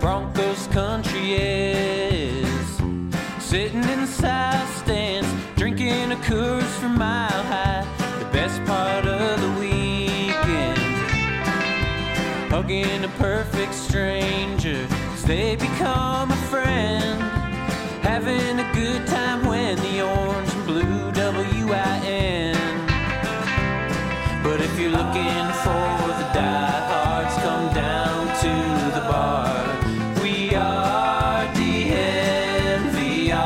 Broncos country is. Sitting in the south stands, drinking a Coors from Mile High. The best part of the weekend, hugging a perfect stranger as they become a friend. Having a good time when the orange and blue WIN. But if you're looking for the diehards, come down to the bar. We are DNVR.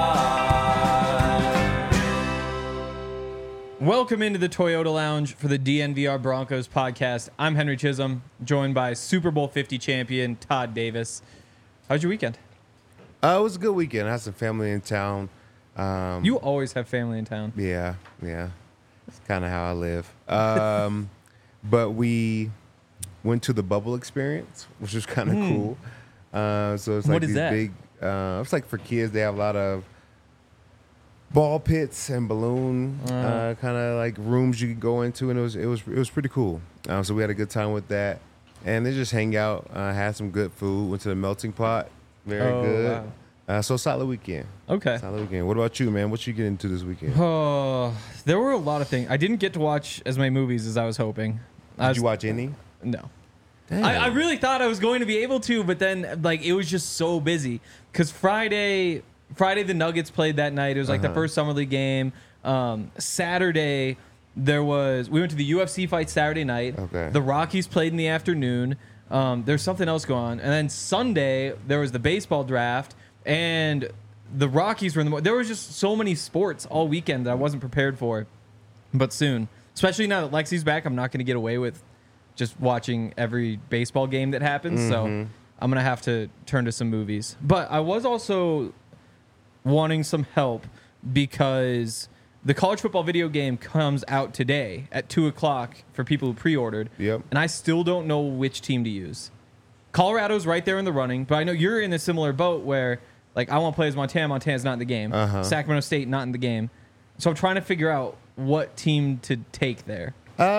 Welcome into the Toyota Lounge for the DNVR Broncos podcast. I'm Henry Chisholm, joined by Super Bowl 50 champion Todd Davis. How's your weekend? It was a good weekend. I had some family in town. You always have family in town. Yeah. It's kind of how I live. But we went to the Bubble Experience, which was kind of cool. So it's like What is these that? big. It's like for kids. They have a lot of ball pits and balloon kind of like rooms you could go into, and it was pretty cool. So we had a good time with that, and they just hang out, had some good food, went to the melting pot. Very good. Wow. So solid weekend. Okay. Solid weekend. What about you, man? What you get into this weekend? Oh, there were a lot of things. I didn't get to watch as many movies as I was hoping. Did you watch any? No. Damn. I really thought I was going to be able to, but then like it was just so busy. Because Friday the Nuggets played that night. It was like the first Summer League game. Saturday we went to the UFC fight Saturday night. Okay. The Rockies played in the afternoon. There's something else going on. And then Sunday there was the baseball draft, and the Rockies were in the. There was just so many sports all weekend that I wasn't prepared for. But soon, especially now that Lexi's back, I'm not going to get away with just watching every baseball game that happens. So I'm going to have to turn to some movies. But I was also wanting some help because the college football video game comes out today at 2 o'clock for people who pre-ordered. Yep. And I still don't know which team to use. Colorado's right there in the running, but I know you're in a similar boat where, like, I want to play as Montana. Montana's not in the game. Sacramento State, not in the game. So I'm trying to figure out what team to take there.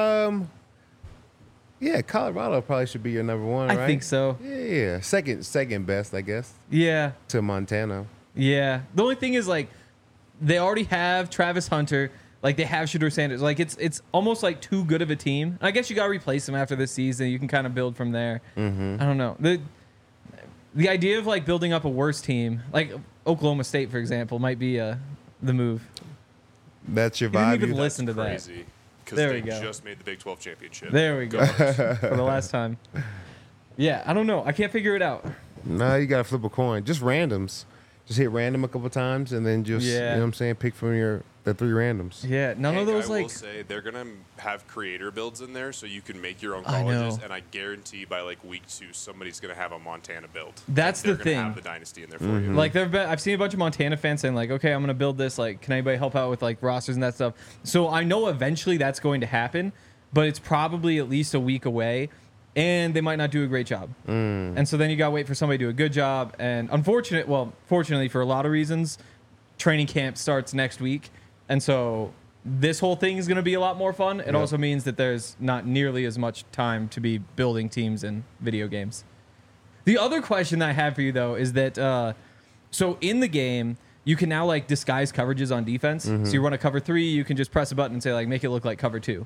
Yeah, Colorado probably should be your number one, right? I think so. Yeah. Second best, I guess, Yeah. to Montana. Yeah. The only thing is, like, they already have Travis Hunter. Like, they have Shedeur Sanders. Like, it's almost like too good of a team. I guess you got to replace them after this season. You can kind of build from there. I don't know. The idea of, like, building up a worse team, like Oklahoma State, for example, might be the move. That's your You didn't vibe. even You- listen to that. Crazy. Because There they we go. just made the Big 12 championship. There we go. For the last time. Yeah, I don't know. I can't figure it out. No, you gotta flip a coin. Just randoms. Just hit random a couple times, and then just you know what I'm saying, pick from the three randoms. Yeah, none of those, I will like... say they're gonna have creator builds in there, so you can make your own I know. colleges. And I guarantee by like week 2, somebody's gonna have a Montana build. That's They're the gonna thing. Have the dynasty in there for you. Like I've seen a bunch of Montana fans saying like, okay, I'm gonna build this. Like, can anybody help out with like rosters and that stuff? So I know eventually that's going to happen, but it's probably at least a week away, and they might not do a great job. And so then you gotta wait for somebody to do a good job. And fortunately for a lot of reasons, training camp starts next week, and so this whole thing is gonna be a lot more fun. It also means that there's not nearly as much time to be building teams in video games. The other question I have for you, though, is that so in the game, you can now like disguise coverages on defense. So you run a cover 3, you can just press a button and say like make it look like cover 2.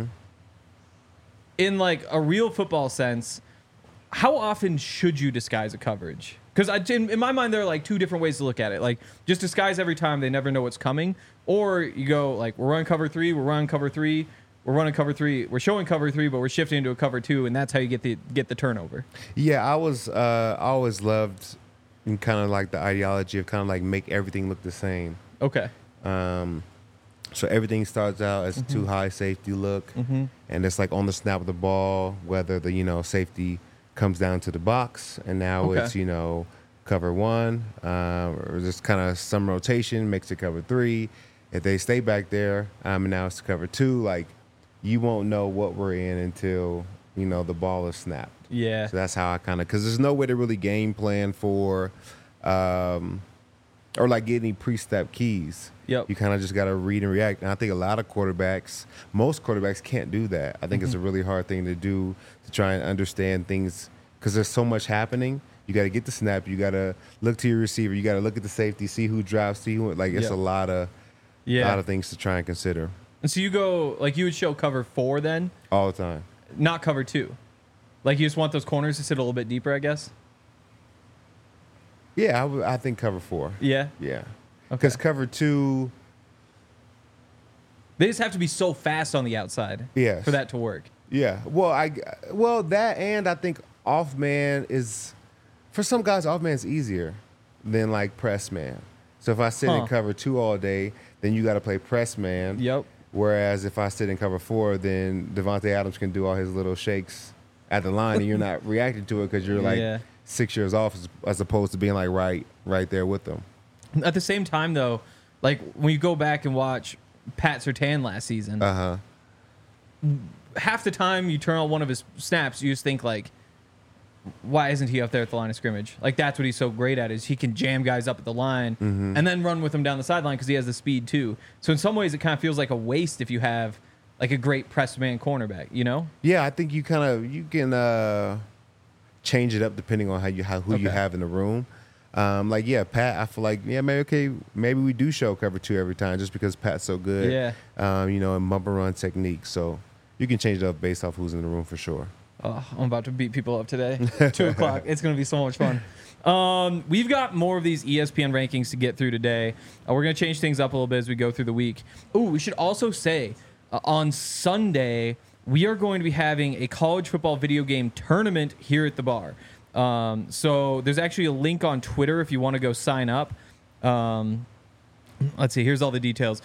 In like a real football sense, how often should you disguise a coverage? Because in my mind, there are like two different ways to look at it. Like just disguise every time, they never know what's coming, or you go like we're running cover 3, we're running cover 3. We're running cover 3. We're showing cover 3, but we're shifting into a cover 2, and that's how you get the turnover. Yeah, I always loved kind of like the ideology of kind of like make everything look the same. Okay. So everything starts out as a too high safety look, and it's like on the snap of the ball, whether the safety comes down to the box, and now Okay. it's cover 1, or just kind of some rotation makes it cover 3. If they stay back there, and now it's cover 2, like you won't know what we're in until the ball is snapped. Yeah. So that's how I kind of, because there's no way to really game plan for, or like get any pre-step keys. Yep. You kind of just got to read and react. And I think most quarterbacks can't do that. I think it's a really hard thing to do, to try and understand things, because there's so much happening. You got to get the snap. You got to look to your receiver. You got to look at the safety, see who drops, see who. Like, it's Yep. a lot of things to try and consider And so you go, like, you would show cover 4 then, all the time. not cover 2. Like, you just want those corners to sit a little bit deeper, I guess? Yeah, I think cover 4. Yeah. Yeah, Okay. because cover 2. They just have to be so fast on the outside Yes. for that to work. Yeah. Well, that, and I think off man is, for some guys, off man is easier than like press man. So if I sit in Huh. cover 2 all day, then you got to play press man. Yep. Whereas if I sit in cover 4, then Devontae Adams can do all his little shakes at the line, and you're not reacting to it because you're like Yeah. 6 years off, as opposed to being like right there with them. At the same time, though, like, when you go back and watch Pat Surtain last season, half the time you turn on one of his snaps, you just think, like, why isn't he up there at the line of scrimmage? Like, that's what he's so great at, is he can jam guys up at the line and then run with them down the sideline because he has the speed too. So in some ways, it kind of feels like a waste if you have like a great press man cornerback, you know? Yeah, I think you can change it up depending on who you Okay. have in the room. Like, yeah, Pat, I feel like, yeah, maybe we do show cover 2 every time just because Pat's so good. Yeah. And bumper run technique. So you can change it up based off who's in the room for sure. Oh, I'm about to beat people up today. 2:00. It's going to be so much fun. We've got more of these ESPN rankings to get through today. We're going to change things up a little bit as we go through the week. Oh, we should also say on Sunday, we are going to be having a college football video game tournament here at the bar. So there's actually a link on Twitter if you want to go sign up. Let's see. Here's all the details.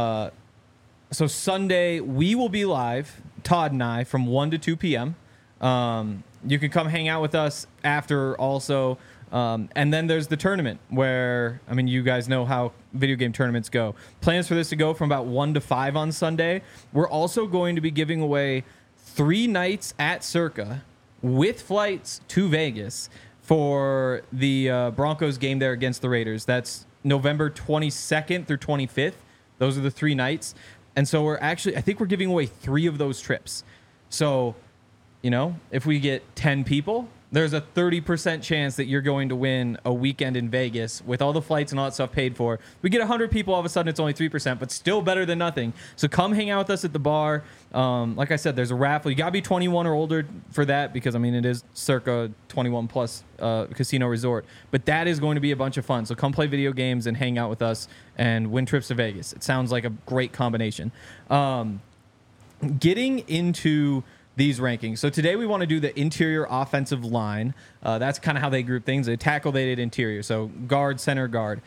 So Sunday, we will be live, Todd and I, from 1 to 2 p.m. You can come hang out with us after also. And then there's the tournament where, I mean, you guys know how video game tournaments go. Plans for this to go from about 1 to 5 on Sunday. We're also going to be giving away 3 nights at Circa with flights to Vegas for the Broncos game there against the Raiders. That's November 22nd through 25th. Those are the 3 nights. And so I think we're giving away 3 of those trips. So, you know, if we get 10 people, there's a 30% chance that you're going to win a weekend in Vegas with all the flights and all that stuff paid for. We get 100 people, all of a sudden it's only 3%, but still better than nothing. So come hang out with us at the bar. Like I said, there's a raffle. You got to be 21 or older for that because, I mean, it is Circa 21 plus casino resort. But that is going to be a bunch of fun. So come play video games and hang out with us and win trips to Vegas. It sounds like a great combination. Getting into these rankings. So today we want to do the interior offensive line. That's kind of how they group things. They tackle, they did interior. So guard, center, guard.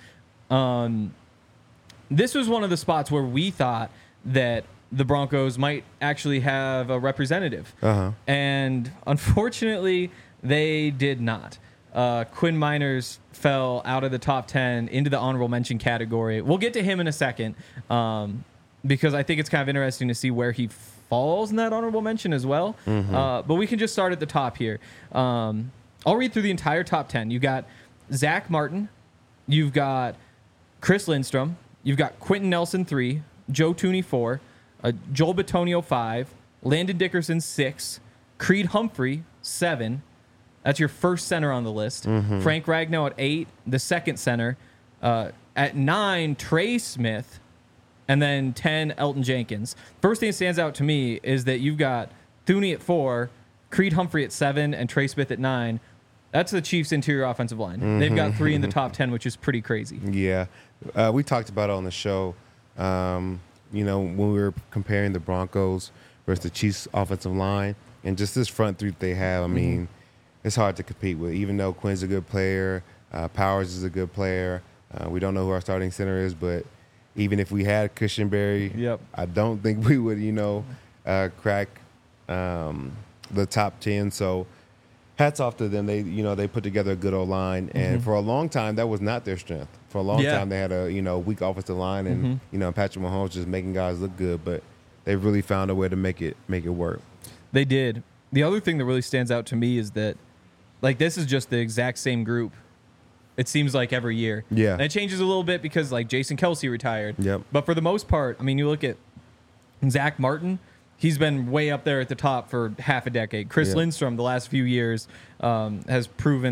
This was one of the spots where we thought that the Broncos might actually have a representative. And unfortunately, they did not. Quinn Miners fell out of the top 10 into the honorable mention category. We'll get to him in a second because I think it's kind of interesting to see where he falls in that honorable mention as well. But we can just start at the top here. I'll read through the entire top 10. You've got Zach Martin. You've got Chris Lindstrom. You've got Quentin Nelson 3. Joe Tooney 4. Joel Bitonio 5. Landon Dickerson 6. Creed Humphrey 7. That's your first center on the list. Frank Ragnow at 8. The second center. At 9, Trey Smith. And then 10, Elton Jenkins. First thing that stands out to me is that you've got Thuney at 4, Creed Humphrey at 7, and Trey Smith at 9. That's the Chiefs' interior offensive line. They've got 3 in the top 10, which is pretty crazy. Yeah. We talked about it on the show, when we were comparing the Broncos versus the Chiefs' offensive line. And just this front 3 that they have, I mean, it's hard to compete with. Even though Quinn's a good player, Powers is a good player. We don't know who our starting center is, but even if we had Cushenberry, I don't think we would, crack the top 10. So hats off to them. They put together a good old line. And for a long time, that was not their strength. For a long time, they had a weak offensive line, and Patrick Mahomes just making guys look good. But they really found a way to make it work. They did. The other thing that really stands out to me is that, like, this is just the exact same group. It seems like every year. Yeah. And it changes a little bit because, like, Jason Kelsey retired. Yep. But for the most part, I mean, you look at Zach Martin, he's been way up there at the top for half a decade. Chris Lindstrom, the last few years, has proven that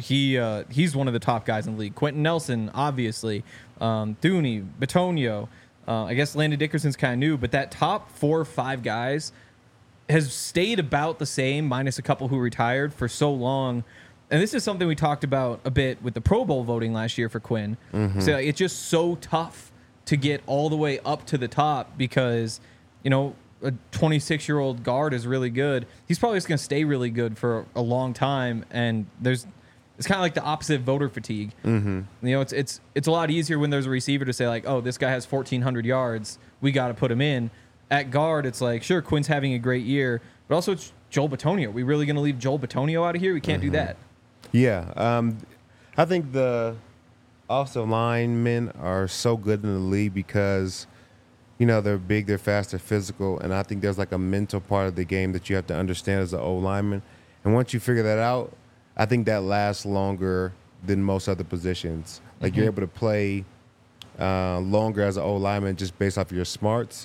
he's one of the top guys in the league. Quentin Nelson, obviously, Thuney, Bitonio. I guess Landon Dickerson's kind of new, but that top 4 or 5 guys has stayed about the same, minus a couple who retired for so long. And this is something we talked about a bit with the Pro Bowl voting last year for Quinn. So it's just so tough to get all the way up to the top because, you know, a 26-year-old guard is really good. He's probably just going to stay really good for a long time. And it's kind of like the opposite of voter fatigue. You know, it's a lot easier when there's a receiver to say like, oh, this guy has 1,400 yards. We got to put him in. At guard, it's like, sure, Quinn's having a great year, but also it's Joel Bitonio. Are we really going to leave Joel Bitonio out of here? We can't do that. Yeah. I think the offensive linemen are so good in the league because, you know, they're big, they're fast, they're physical, and I think there's like a mental part of the game that you have to understand as an O-lineman. And once you figure that out, I think that lasts longer than most other positions. Like you're able to play longer as an O-lineman just based off your smarts,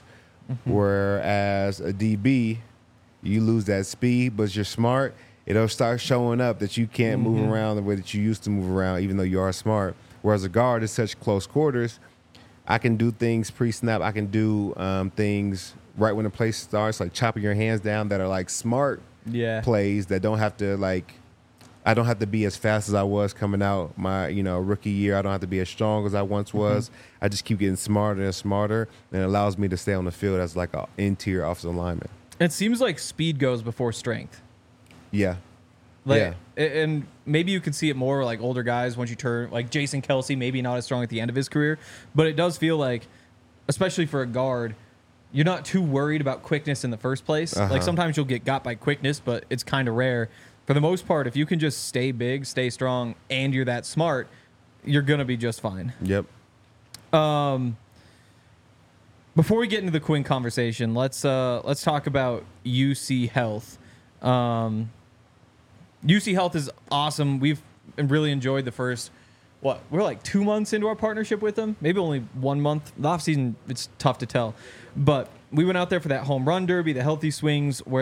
whereas a DB, you lose that speed, but you're smart. It'll start showing up that you can't move around the way that you used to move around, even though you are smart. Whereas a guard is such close quarters, I can do things pre-snap. I can do things right when the play starts, like chopping your hands down that are like smart plays that don't have to like, I don't have to be as fast as I was coming out my, you know, rookie year. I don't have to be as strong as I once was. I just keep getting smarter and smarter, and it allows me to stay on the field as like an interior offensive lineman. It seems like speed goes before strength. Yeah. Like, and maybe you can see it more like older guys once you turn, like Jason Kelsey, maybe not as strong at the end of his career, but it does feel like, especially for a guard, you're not too worried about quickness in the first place. Like sometimes you'll get got by quickness, but it's kind of rare. For the most part, if you can just stay big, stay strong, and you're that smart, you're going to be just fine. Yep. Before we get into the Quinn conversation, let's talk about UC Health. UC Health is awesome. We've really enjoyed the first, we're like 2 months into our partnership with them. Maybe only 1 month. The off season, it's tough to tell. But we went out there for that home run derby, the Healthy Swings, where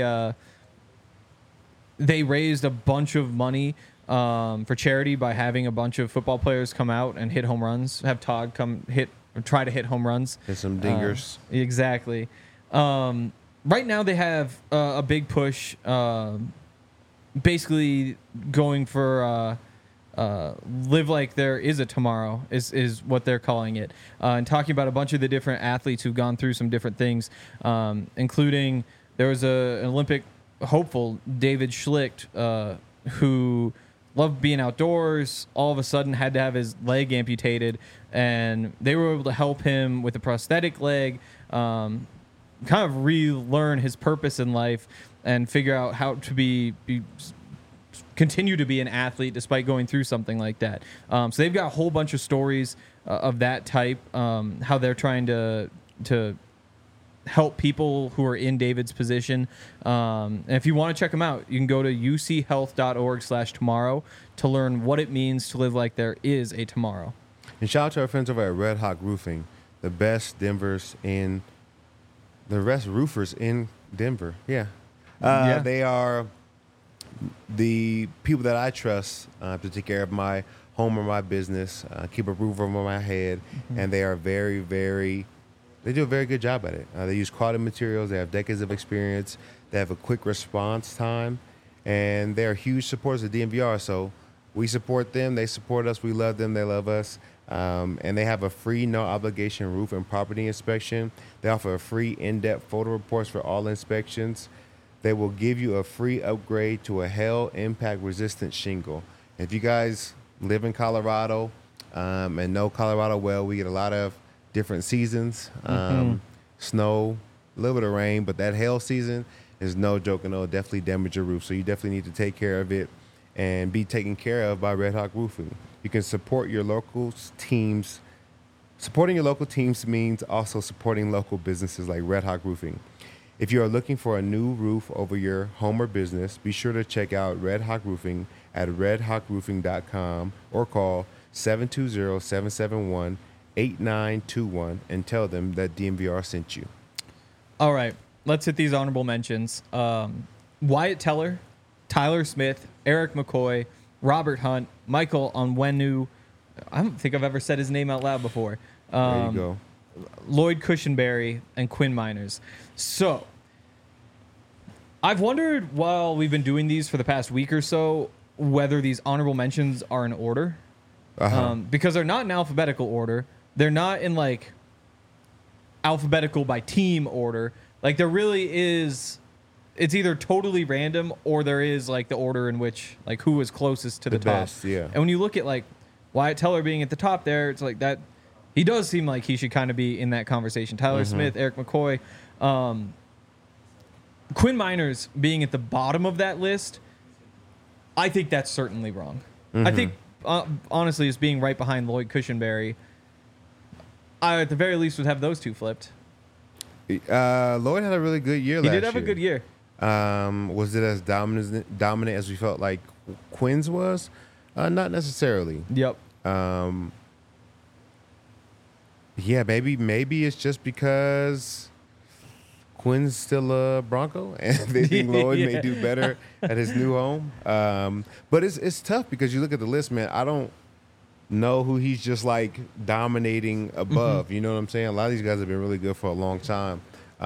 they raised a bunch of money for charity by having a bunch of football players come out and hit home runs. Have Todd come try to hit home runs. Hit some dingers. Exactly. Right now they have a big push, basically going for live like there is a tomorrow is what they're calling it, and talking about a bunch of the different athletes who've gone through some different things, including there was an Olympic hopeful, David Schlicht, who loved being outdoors, all of a sudden had to have his leg amputated, and they were able to help him with a prosthetic leg, kind of relearn his purpose in life and figure out how to continue to be an athlete despite going through something like that. So they've got a whole bunch of stories of that type, how they're trying to help people who are in David's position. And if you want to check them out, you can go to uchealth.org/tomorrow to learn what it means to live like there is a tomorrow. And shout out to our friends over at Red Hawk Roofing, the best roofers in Denver. Yeah. They are the people that I trust to take care of my home or my business, keep a roof over my head, and they are very, very... They do a very good job at it. They use quality materials. They have decades of experience. They have a quick response time, and they're huge supporters of DNVR. So we support them. They support us. We love them. They love us. And they have a free, no-obligation roof and property inspection. They offer a free in-depth photo reports for all inspections. They will give you a free upgrade to a hail impact-resistant shingle. If you guys live in Colorado and know Colorado well, we get a lot of different seasons, snow, a little bit of rain, but that hail season is no joke, and it'll definitely damage your roof. So you definitely need to take care of it and be taken care of by Red Hawk Roofing. You can support your local teams. Supporting your local teams means also supporting local businesses like Red Hawk Roofing. If you are looking for a new roof over your home or business, be sure to check out Red Hawk Roofing at redhawkroofing.com or call 720-771-8921 and tell them that DNVR sent you. All right, let's hit these honorable mentions. Wyatt Teller, Tyler Smith, Eric McCoy, Robert Hunt, Michael Onwenu. I don't think I've ever said his name out loud before. There you go. Lloyd Cushenberry, and Quinn Miners. So, I've wondered while we've been doing these for the past week or so whether these honorable mentions are in order. Because they're not in alphabetical order. They're not in like alphabetical by team order. Like there really is, it's either totally random or there is like the order in which like who is closest to the top. Best, yeah. And when you look at like Wyatt Teller being at the top there, it's like that he does seem like he should kind of be in that conversation. Tyler Smith, Eric McCoy, Quinn Miners being at the bottom of that list, I think that's certainly wrong. I think honestly, as being right behind Lloyd Cushenberry, I at the very least would have those two flipped. Lloyd had a really good year last year. He did have a good year. Was it as dominant as we felt like Quinn's was? Not necessarily. Yep. Yeah, maybe it's just because Quinn's still a Bronco, and they think Lloyd may do better at his new home. But it's tough because you look at the list, man. I don't know who he's just like dominating above. You know what I'm saying? A lot of these guys have been really good for a long time.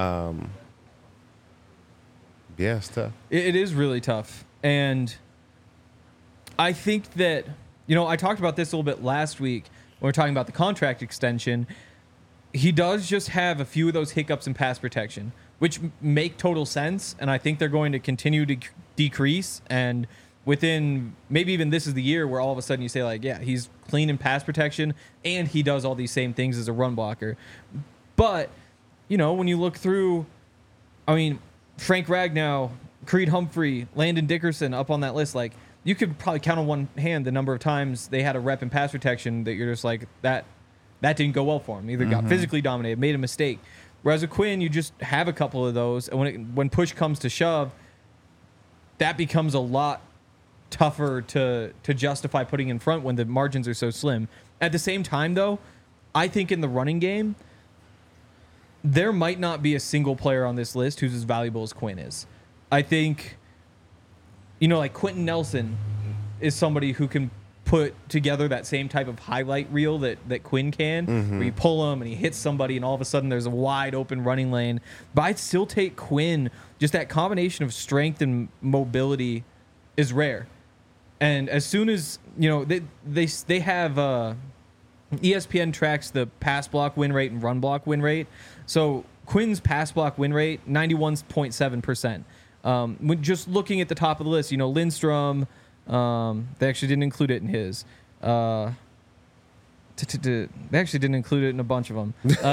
Yeah, it's tough. It is really tough. And I think that, I talked about this a little bit last week when we were talking about the contract extension. He does just have a few of those hiccups in pass protection, which make total sense. And I think they're going to continue to decrease. And within maybe even this is the year where all of a sudden you say like, yeah, he's clean in pass protection and he does all these same things as a run blocker. But, when you look through, Frank Ragnow, Creed Humphrey, Landon Dickerson up on that list, like you could probably count on one hand the number of times they had a rep in pass protection that you're just like, that didn't go well for him. Either got physically dominated, made a mistake. Whereas with Quinn, you just have a couple of those. And when push comes to shove, that becomes a lot tougher to justify putting in front when the margins are so slim. At the same time, though, I think in the running game, there might not be a single player on this list who's as valuable as Quinn is. I think, like Quentin Nelson is somebody who can put together that same type of highlight reel that Quinn can, where you pull him and he hits somebody and all of a sudden there's a wide open running lane. But I'd still take Quinn. Just that combination of strength and mobility is rare. And as soon as, they have ESPN tracks the pass block win rate and run block win rate. So Quinn's pass block win rate, 91.7%. When just looking at the top of the list, Lindstrom, they actually didn't include it in his. They actually didn't include it in a bunch of them.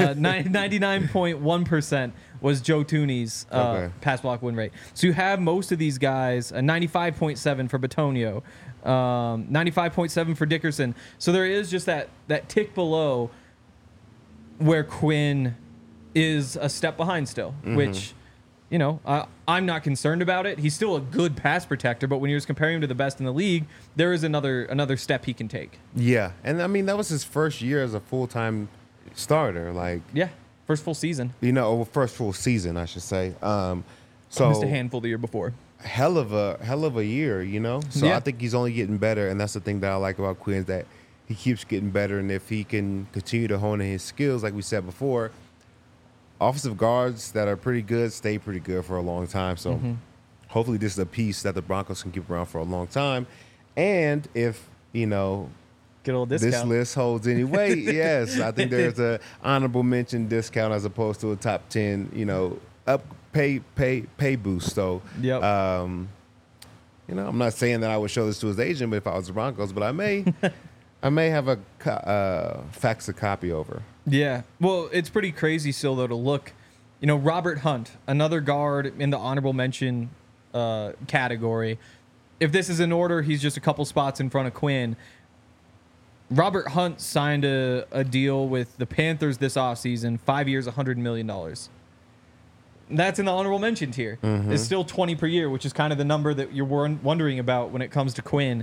99.1% was Joe Tooney's pass block win rate. So you have most of these guys, 95.7 for Batonio, 95.7 for Dickerson. So there is just that tick below where Quinn is a step behind still, which, I'm not concerned about it. He's still a good pass protector, but when you're comparing him to the best in the league, there is another step he can take. Yeah, and that was his first year as a full-time starter. First full season. First full season, I should say. So missed a handful the year before. Hell of a year, So Yeah. I think he's only getting better, and that's the thing that I like about Quinn, is that he keeps getting better, and if he can continue to hone in his skills, like we said before, offensive guards that are pretty good stay pretty good for a long time. So hopefully this is a piece that the Broncos can keep around for a long time. And if, Get a little discount. this list holds any weight, yes, I think there's a honorable mention discount as opposed to a top 10, pay boost. So, Yep. I'm not saying that I would show this to his agent, but if I was the Broncos, but I may have a fax a copy over. Yeah. Well, it's pretty crazy still, though, to look. Robert Hunt, another guard in the honorable mention category. If this is in order, he's just a couple spots in front of Quinn. Robert Hunt signed a deal with the Panthers this offseason, 5 years, $100 million. That's in the honorable mention tier. It's still 20 per year, which is kind of the number that you're wondering about when it comes to Quinn.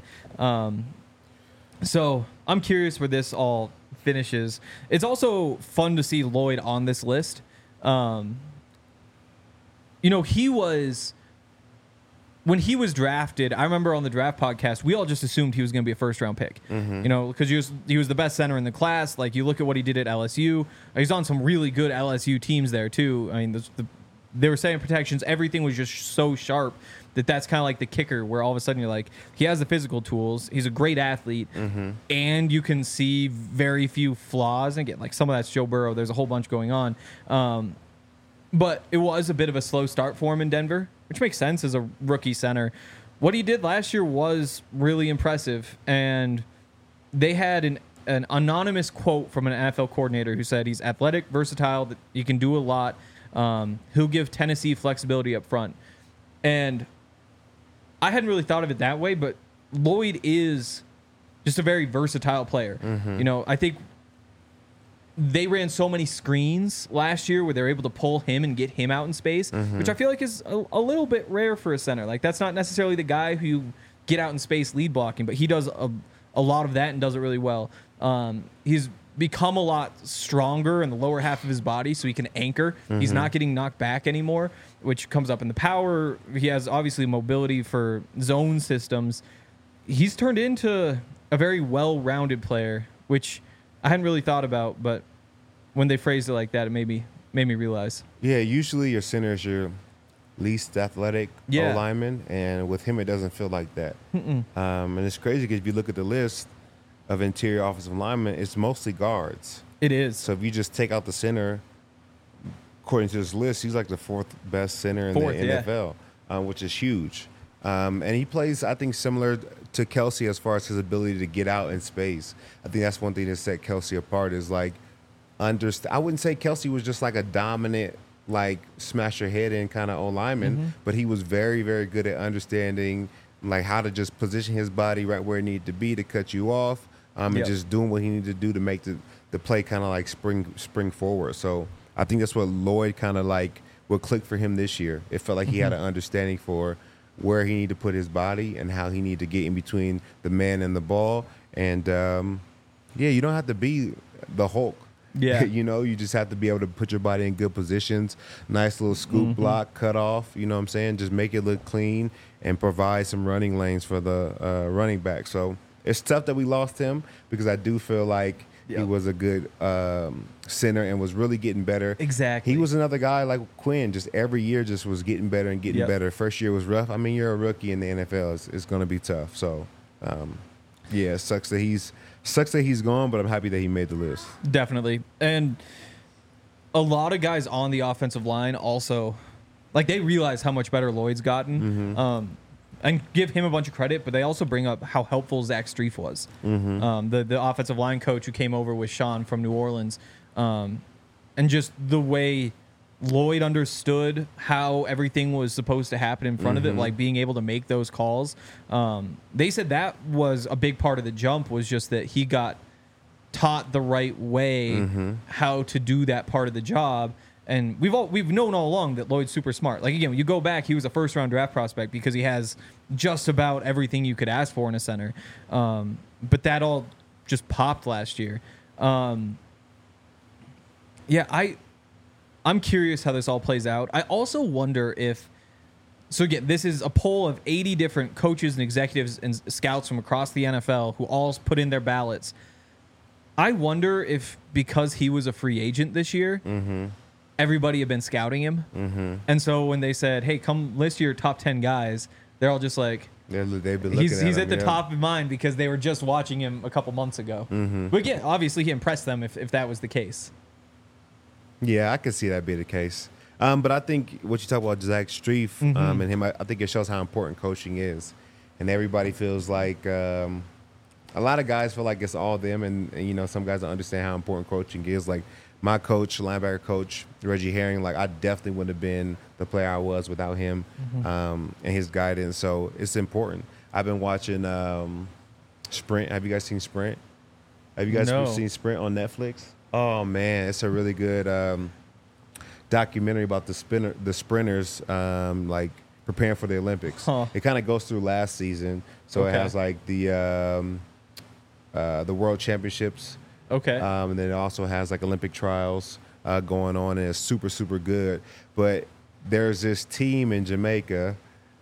So I'm curious where this all finishes. It's also fun to see Lloyd on this list. He was when he was drafted, I remember on the draft podcast, we all just assumed he was going to be a first-round pick. You know, because he was the best center in the class. Like, you look at what he did at LSU. He's on some really good LSU teams there, too. I mean, they were saying protections. Everything was just so sharp that's kind of like the kicker, where all of a sudden you're like, he has the physical tools. He's a great athlete. And you can see very few flaws. And again, like, some of that's Joe Burrow. There's a whole bunch going on. But it was a bit of a slow start for him in Denver, which makes sense as a rookie center. What he did last year was really impressive. And they had an anonymous quote from an NFL coordinator who said he's athletic, versatile, that he can do a lot. He'll give Tennessee flexibility up front. And I hadn't really thought of it that way, but Lloyd is just a very versatile player. You know, I think they ran so many screens last year where they're able to pull him and get him out in space, which I feel like is a little bit rare for a center. Like, that's not necessarily the guy who you get out in space lead blocking, but he does a lot of that and does it really well. He's become a lot stronger in the lower half of his body, so he can anchor. He's not getting knocked back anymore, which comes up in the power. He has obviously mobility for zone systems. He's turned into a very well-rounded player, which I hadn't really thought about, but when they phrased it like that, it made me realize. Yeah, usually your center is your least athletic O-lineman, and with him, it doesn't feel like that. And it's crazy because if you look at the list of interior offensive linemen, it's mostly guards. It is. So if you just take out the center, according to this list, he's like the fourth best center in the NFL, which is huge. And he plays, I think, similar to Kelsey as far as his ability to get out in space. I think that's one thing that set Kelsey apart is like, I wouldn't say Kelsey was just like a dominant, like smash your head in kind of O-lineman, but he was very, very good at understanding like how to just position his body right where it needed to be to cut you off, and just doing what he needed to do to make the play kind of like spring forward. So I think that's what Lloyd kind of like what clicked for him this year. It felt like he had an understanding for where he needed to put his body and how he needed to get in between the man and the ball. And you don't have to be the Hulk. Yeah. You know, you just have to be able to put your body in good positions. Nice little scoop block, cut off, you know what I'm saying? Just make it look clean and provide some running lanes for the running back. So it's tough that we lost him because I do feel like he was a good center and was really getting better. Exactly. He was another guy like Quinn, just every year just was getting better and getting better. First year was rough. I mean, you're a rookie in the NFL. It's going to be tough. So, it sucks that he's gone, but I'm happy that he made the list. Definitely. And a lot of guys on the offensive line also, like, they realize how much better Lloyd's gotten. And give him a bunch of credit, but they also bring up how helpful Zach Strief was. The offensive line coach who came over with Sean from New Orleans. And just the way Lloyd understood how everything was supposed to happen in front of it, like being able to make those calls. They said that was a big part of the jump, was just that he got taught the right way how to do that part of the job. And we've known all along that Lloyd's super smart. Like, again, when you go back, he was a first-round draft prospect because he has just about everything you could ask for in a center. But that all just popped last year. I'm curious how this all plays out. I also wonder if... So, again, this is a poll of 80 different coaches and executives and scouts from across the NFL who all put in their ballots. I wonder if because he was a free agent this year... everybody had been scouting him. And so when they said, hey, come list your top 10 guys, they're all just like, they've been looking he's at at the top of mind because they were just watching him a couple months ago. But again, obviously he impressed them if that was the case. Yeah, I could see that be the case. But I think what you talk about Zach Strief and him, I think it shows how important coaching is. And everybody feels like a lot of guys feel like it's all them. And, you know, some guys don't understand how important coaching is. Like, my coach, linebacker coach, Reggie Herring, like, I definitely wouldn't have been the player I was without him and his guidance. So it's important. I've been watching Sprint. Have you guys seen Sprint? Have you guys seen Sprint on Netflix? Oh, man, it's a really good documentary about the sprinters, like, preparing for the Olympics. It kind of goes through last season. So it has, like, the World Championships. And then it also has like Olympic trials going on, and it's super, super good. But there's this team in Jamaica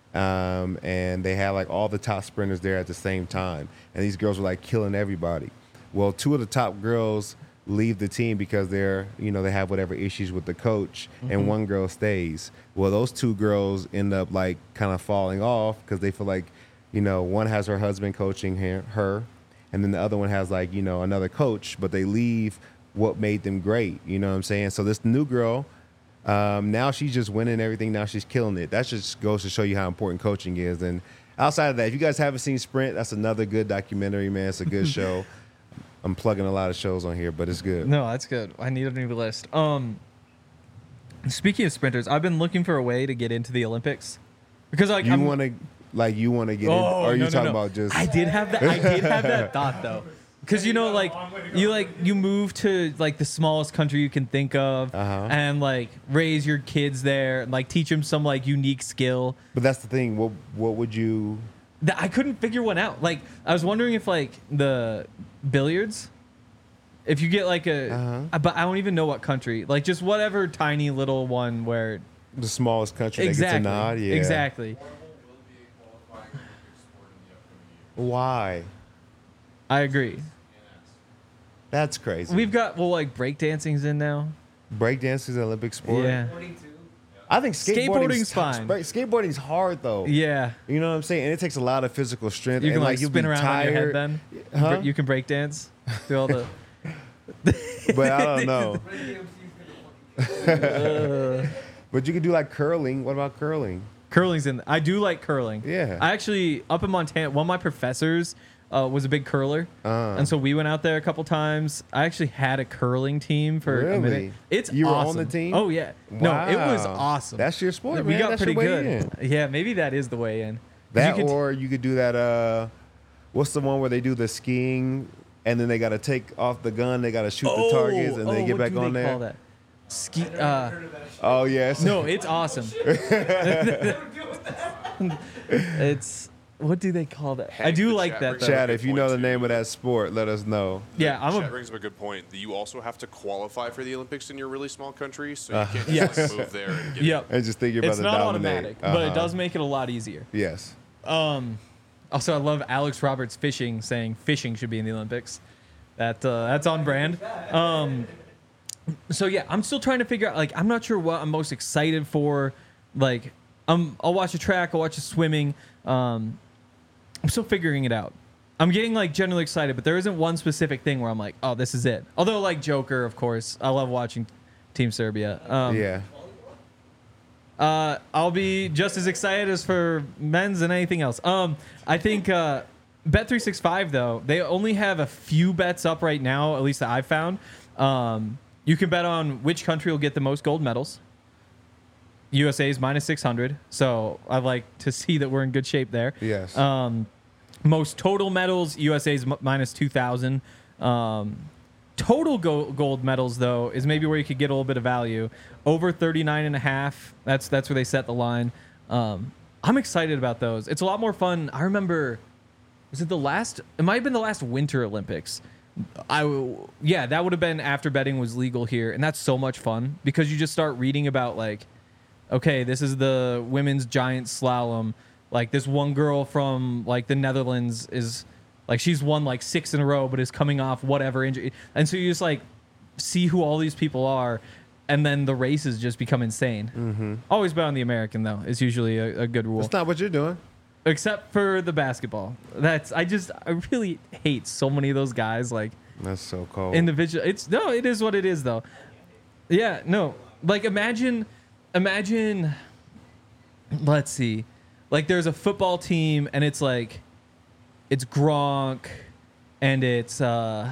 and they had like all the top sprinters there at the same time, and these girls were like killing everybody. Well, 2 of the top girls leave the team because they're, they have whatever issues with the coach, and 1 girl stays. Well, those 2 girls end up like kind of falling off because they feel like, one has her husband coaching her, and then the other one has like, another coach, but they leave what made them great. You know what I'm saying? So this new girl, now she's just winning everything. Now she's killing it. That just goes to show you how important coaching is. And outside of that, if you guys haven't seen Sprint, that's another good documentary, man. It's a good show. I'm plugging a lot of shows on here, but it's good. No, that's good. I need a new list. Speaking of sprinters, I've been looking for a way to get into the Olympics because like you want to get in, or are you talking about just? I did have that thought though, because you move to like the smallest country you can think of, and like raise your kids there, and like teach them some like unique skill. But that's the thing. What would you? I couldn't figure one out. Like I was wondering if like the billiards, if you get like but I don't even know what country, like just whatever tiny little one where the smallest country that gets a nod. Yeah, exactly. Why? I agree. That's crazy. We've got like breakdancing's in now. Breakdancing is an Olympic sport. Yeah. I think skateboarding's fine. Skateboarding's hard though. Yeah. You know what I'm saying? And it takes a lot of physical strength. You can and, like you'll spin be around tired. on your head then. Huh? You can break dance through all the. But I don't know. But you could do like curling. What about curling? Curling's in. I do like curling. Yeah. I actually up in Montana. One of my professors was a big curler, and so we went out there a couple times. I actually had a curling team for a minute. You were awesome. on the team? Oh yeah. Wow. No, it was awesome. That's your sport, We man. got That's pretty your way good. in. Yeah, maybe that is the way in. That or you could do that. What's the one where they do the skiing and then they got to take off the gun, they got to shoot the targets, and they get back on there? Call that? Ski. Oh yes. No, it's awesome. It's. What do they call that? I do like that though. Chad, if you know the name of that sport, let us know. Yeah, Chad brings up a good point. You also have to qualify for the Olympics in your really small country, so you can't just like, move there and get Yep. And just think you're about It's to not dominate. automatic, but it does make it a lot easier. Yes. Also, I love Alex Roberts fishing saying fishing should be in the Olympics. That's on brand. So yeah, I'm still trying to figure out. Like, I'm not sure what I'm most excited for. Like, I'll watch a track, I'll watch a swimming. I'm still figuring it out. I'm getting like generally excited, but there isn't one specific thing where I'm like, oh, this is it. Although like Joker, of course, I love watching Team Serbia. Yeah. I'll be just as excited as for men's and anything else. I think Bet365 though, they only have a few bets up right now, at least that I've found. You can bet on which country will get the most gold medals. USA is -600, so I like to see that we're in good shape there. Yes. Most total medals, USA is -2,000. Total gold medals though is maybe where you could get a little bit of value. Over 39.5. That's where they set the line. I'm excited about those. It's a lot more fun. I remember, was it the last? It might have been the last Winter Olympics. Yeah, that would have been after betting was legal here, and that's so much fun because you just start reading about like, okay, this is the women's giant slalom. Like this one girl from like the Netherlands is like she's won like 6 in a row, but is coming off whatever injury, and so you just like see who all these people are, and then the races just become insane. Mm-hmm. Always bet on the American though. It's usually a good rule. That's not what you're doing. Except for the basketball. I really hate so many of those guys. Like that's so cold. Individual. It is what it is though. Yeah, no. Like imagine. Let's see. Like there's a football team and it's Gronk, and it's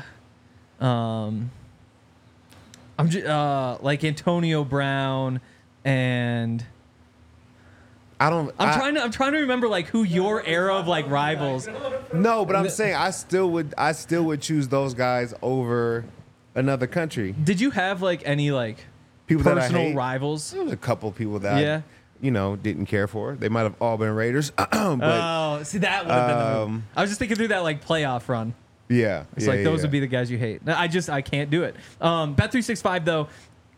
like Antonio Brown and. I'm trying to remember like who your era of like rivals. No, but I'm saying I still would choose those guys over another country. Did you have like any like people that I personal hate? rivals? There was a couple people that I, didn't care for. They might have all been Raiders. But, see, that would have been the move. I was just thinking through that like playoff run. Yeah, It's like those would be the guys you hate. I can't do it. Bet365 though,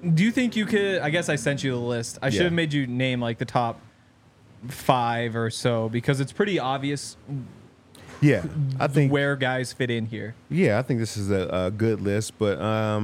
Do you think you could? I guess I sent you the list. I should have made you name like the top 5 or so because it's pretty obvious. Yeah, I think where guys fit in here. Yeah, I think this is a good list, but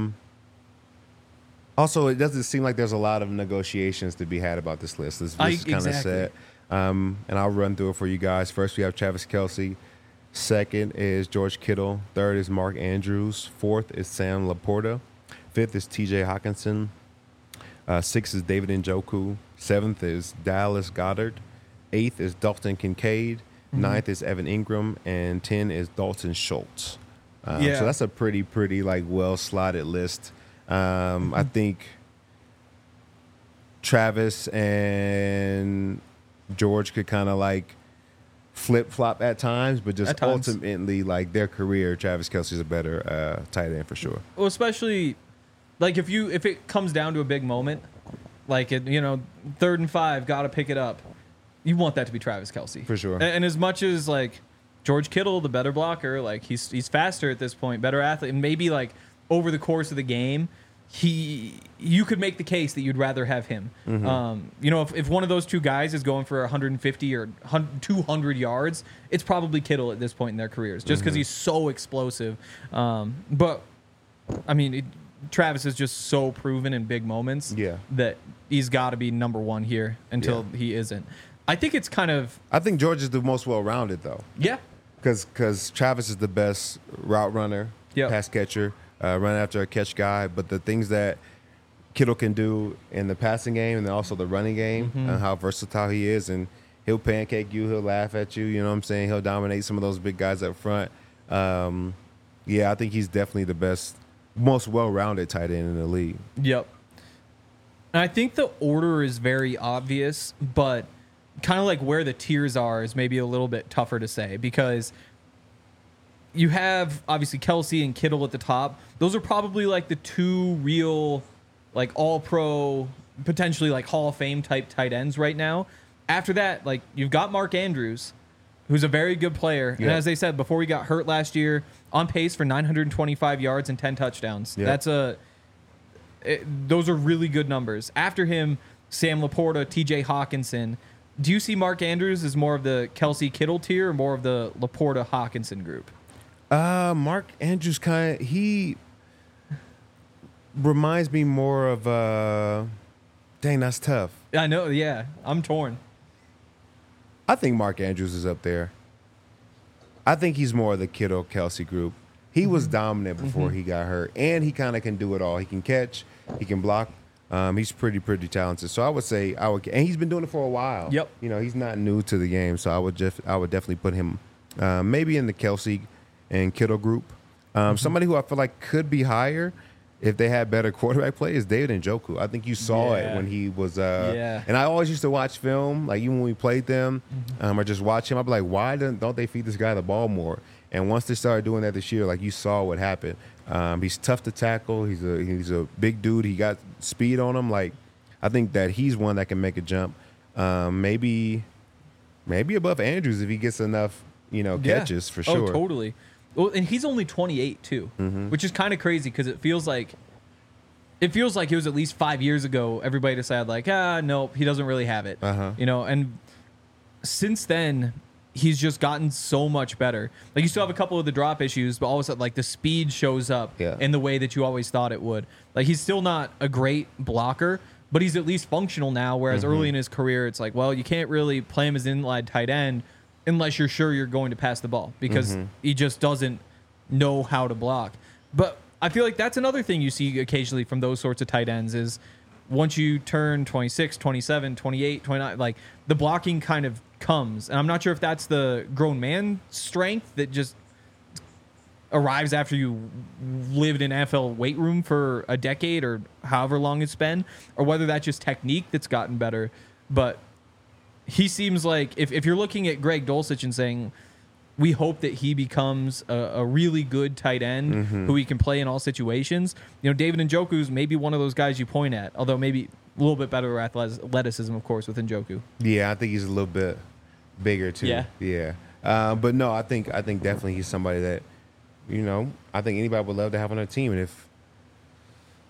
also it doesn't seem like there's a lot of negotiations to be had about this list. This list is kind of set, and I'll run through it for you guys. First, we have Travis Kelce. Second is George Kittle. Third is Mark Andrews. Fourth is Sam Laporta. Fifth is T.J. Hawkinson. Sixth is David Njoku. Seventh is Dallas Goedert. Eighth is Dalton Kincaid. Ninth is Evan Ingram. And 10 is Dalton Schultz. So that's a pretty like well-slotted list. I think Travis and George could kind of like flip-flop at times, but just ultimately like their career, Travis Kelce's a better tight end for sure. Well, especially like if it comes down to a big moment, like 3rd and 5, gotta pick it up. You want that to be Travis Kelce for sure. And as much as like George Kittle, the better blocker, like he's faster at this point, better athlete, and maybe like over the course of the game, you could make the case that you'd rather have him. If one of those two guys is going for 150 or 200 yards, it's probably Kittle at this point in their careers, just because he's so explosive. But I mean, Travis is just so proven in big moments that he's got to be number 1 here until he isn't. I think it's kind of. I think George is the most well-rounded though. Yeah. Because Travis is the best route runner, pass catcher, run after a catch guy. But the things that Kittle can do in the passing game and then also the running game and how versatile he is, and he'll pancake you, he'll laugh at you. You know what I'm saying? He'll dominate some of those big guys up front. I think he's definitely the best, most well-rounded tight end in the league. Yep. And I think the order is very obvious, but kind of like where the tiers are is maybe a little bit tougher to say because you have obviously Kelce and Kittle at the top. Those are probably like the 2 real like all-pro, potentially like Hall of Fame type tight ends right now. After that, like you've got Mark Andrews, who's a very good player. And as they said, before he got hurt last year, on pace for 925 yards and 10 touchdowns. Those are really good numbers. After him, Sam Laporta, T.J. Hawkinson. Do you see Mark Andrews as more of the Kelce Kittle tier or more of the Laporta Hawkinson group? Mark Andrews he reminds me more of dang, that's tough. I know, yeah. I'm torn. I think Mark Andrews is up there. I think he's more of the Kittle Kelce group. He was dominant before he got hurt, and he kind of can do it all. He can catch, he can block. He's pretty talented. So I would say and he's been doing it for a while. Yep. He's not new to the game. So I would definitely put him maybe in the Kelce and Kittle group. Somebody who I feel like could be higher if they had better quarterback play is David Njoku. I think you saw it when he was. And I always used to watch film, like even when we played them, or just watch him. I'd be like, why don't they feed this guy the ball more? And once they started doing that this year, like you saw what happened. He's tough to tackle. He's a big dude. He got speed on him. Like I think that he's one that can make a jump. Maybe above Andrews if he gets enough, catches for sure. Oh, totally. Well, and he's only 28 too, which is kind of crazy because it feels like it was at least 5 years ago. Everybody decided like, nope, he doesn't really have it. And since then, he's just gotten so much better. Like you still have a couple of the drop issues, but all of a sudden, like the speed shows up in the way that you always thought it would. Like he's still not a great blocker, but he's at least functional now. Whereas early in his career, it's like, well, you can't really play him as an inline tight end unless you're sure you're going to pass the ball because he just doesn't know how to block. But I feel like that's another thing you see occasionally from those sorts of tight ends is once you turn 26, 27, 28, 29, like the blocking kind of comes. And I'm not sure if that's the grown man strength that just arrives after you lived in NFL weight room for a decade or however long it's been, or whether that's just technique that's gotten better. But he seems like if you're looking at Greg Dulcich and saying, we hope that he becomes a really good tight end who he can play in all situations. David Njoku's maybe one of those guys you point at, although maybe a little bit better athleticism, of course, with Njoku. Yeah, I think he's a little bit bigger too. Yeah. But no, I think definitely he's somebody that, I think anybody would love to have on their team. And if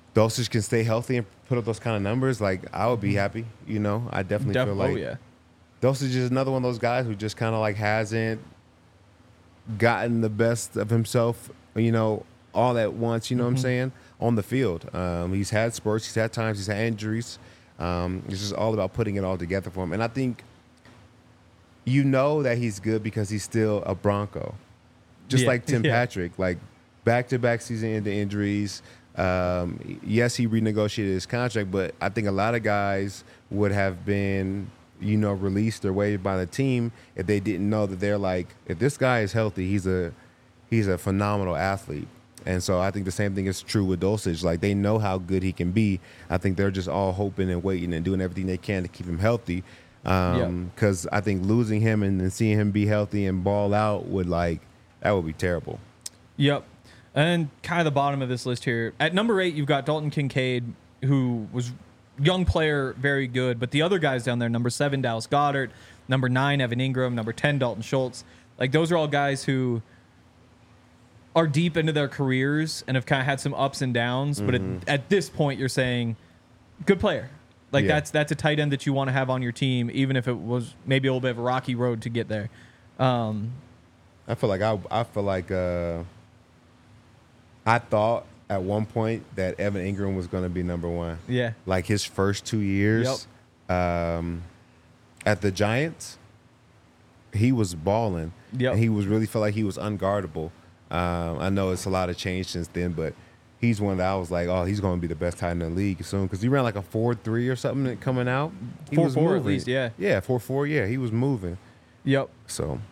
Dulcich can stay healthy and put up those kind of numbers, like I would be happy. You know, I definitely feel like Dulcich is another one of those guys who just kind of like hasn't gotten the best of himself, you know, all at once. You know what I'm saying? On the field, he's had spurts, he's had times, he's had injuries. It's just all about putting it all together for him, and I think you know that he's good because he's still a Bronco, just like Tim Patrick, like back-to-back season-ending injuries. Yes, he renegotiated his contract, but I think a lot of guys would have been, you know, released or waived by the team if they didn't know that they're like, if this guy is healthy, he's a phenomenal athlete. And so I think the same thing is true with Dulcich. Like, they know how good he can be. I think they're just all hoping and waiting and doing everything they can to keep him healthy. Because I think losing him and then seeing him be healthy and ball out that would be terrible. Yep. And kind of the bottom of this list here. At number 8, you've got Dalton Kincaid, who was young player, very good. But the other guys down there, number 7, Dallas Goedert, number 9, Evan Ingram, number 10, Dalton Schultz. Like, those are all guys who are deep into their careers and have kind of had some ups and downs. But at this point, you're saying, good player. Like, that's a tight end that you want to have on your team, even if it was maybe a little bit of a rocky road to get there. I feel like I thought at one point that Evan Ingram was going to be number 1. Yeah. Like his first 2 years at the Giants, he was balling. Yep. And he was really felt like he was unguardable. I know it's a lot of change since then, but he's one that I was like, oh, he's going to be the best tight end in the league soon because he ran like a 4.3 or something coming out. He was 4.4 at least, yeah. Yeah, 4.4, yeah. He was moving. Yep. So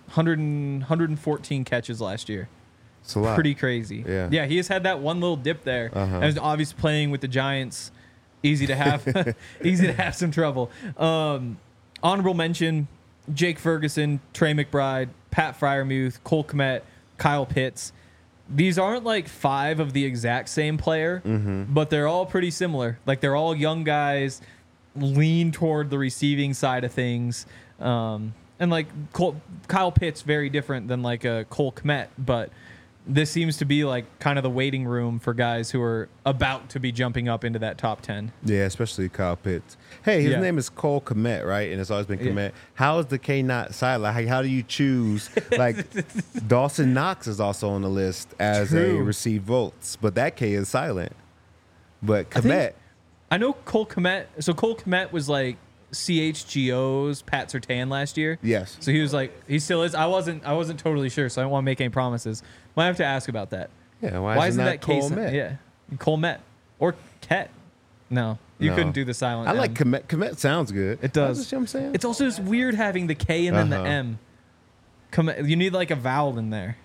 114 catches last year. It's a lot. Pretty crazy. Yeah. Yeah, he has had that one little dip there. And was obviously playing with the Giants. Easy to have some trouble. Honorable mention, Jake Ferguson, Trey McBride, Pat Freiermuth, Cole Kmet, Kyle Pitts. These aren't like 5 of the exact same player, but they're all pretty similar. Like, they're all young guys, lean toward the receiving side of things. And like Kyle Pitts, very different than like a Cole Kmet, but this seems to be like kind of the waiting room for guys who are about to be jumping up into that top 10. Yeah, especially Kyle Pitts. Hey, his name is Cole Kmet, right? And it's always been Kmet. Yeah. How is the K not silent? Like, how do you choose? Like, Dawson Knox is also on the list as a received votes, but that K is silent. But Kmet. I know Cole Kmet. So Cole Kmet was like CHGO's Pat Surtain last year. Yes. So he was like, he still is. I wasn't totally sure, so I don't want to make any promises. Might have to ask about that. Yeah, why isn't that Cole Met? Yeah, Cole Met or Ket. No, you couldn't do the silent. I like Kmet. Kmet sounds good. It does. That's what I'm saying. It's also just weird having the K and then the M. You need like a vowel in there.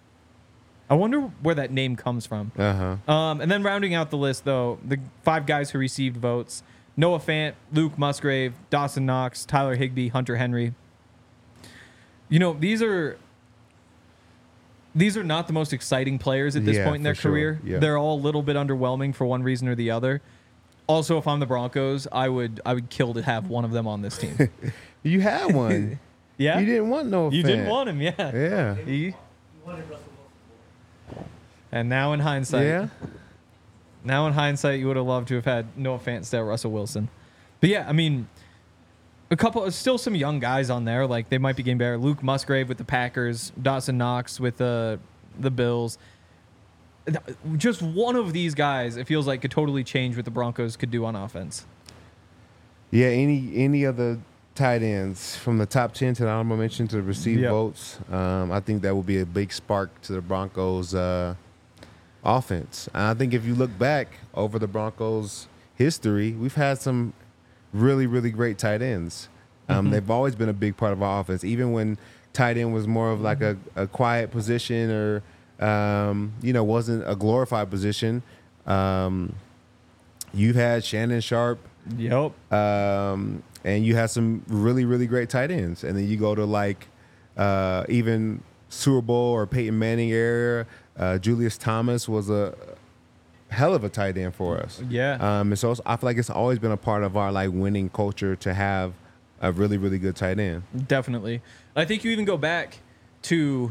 I wonder where that name comes from. And then rounding out the list, though, the 5 guys who received votes: Noah Fant, Luke Musgrave, Dawson Knox, Tyler Higbee, Hunter Henry. You know, these are not the most exciting players at this point in their career. Yeah. They're all a little bit underwhelming for one reason or the other. Also, if I'm the Broncos, I would kill to have one of them on this team. You had one. Yeah? You didn't want Noah Fant. You didn't want him, yeah. Yeah. You wanted Russell Wilson. And now in hindsight, you would have loved to have had Noah Fant instead of Russell Wilson. But yeah, I mean, still some young guys on there. Like, they might be getting better. Luke Musgrave with the Packers, Dawson Knox with the Bills. Just one of these guys, it feels like, could totally change what the Broncos could do on offense. Yeah, any of the tight ends from the top 10 to the honorable mention to the received votes, I think that will be a big spark to the Broncos' offense. And I think if you look back over the Broncos' history, we've had some really, really great tight ends. They've always been a big part of our offense, even when tight end was more of like a quiet position or, wasn't a glorified position. You've had Shannon Sharp. Yep. And you have some really, really great tight ends. And then you go to like even Super Bowl or Peyton Manning era. Julius Thomas was a hell of a tight end for us. Yeah. And so I feel like it's always been a part of our like winning culture to have a really, really good tight end. Definitely. I think you even go back to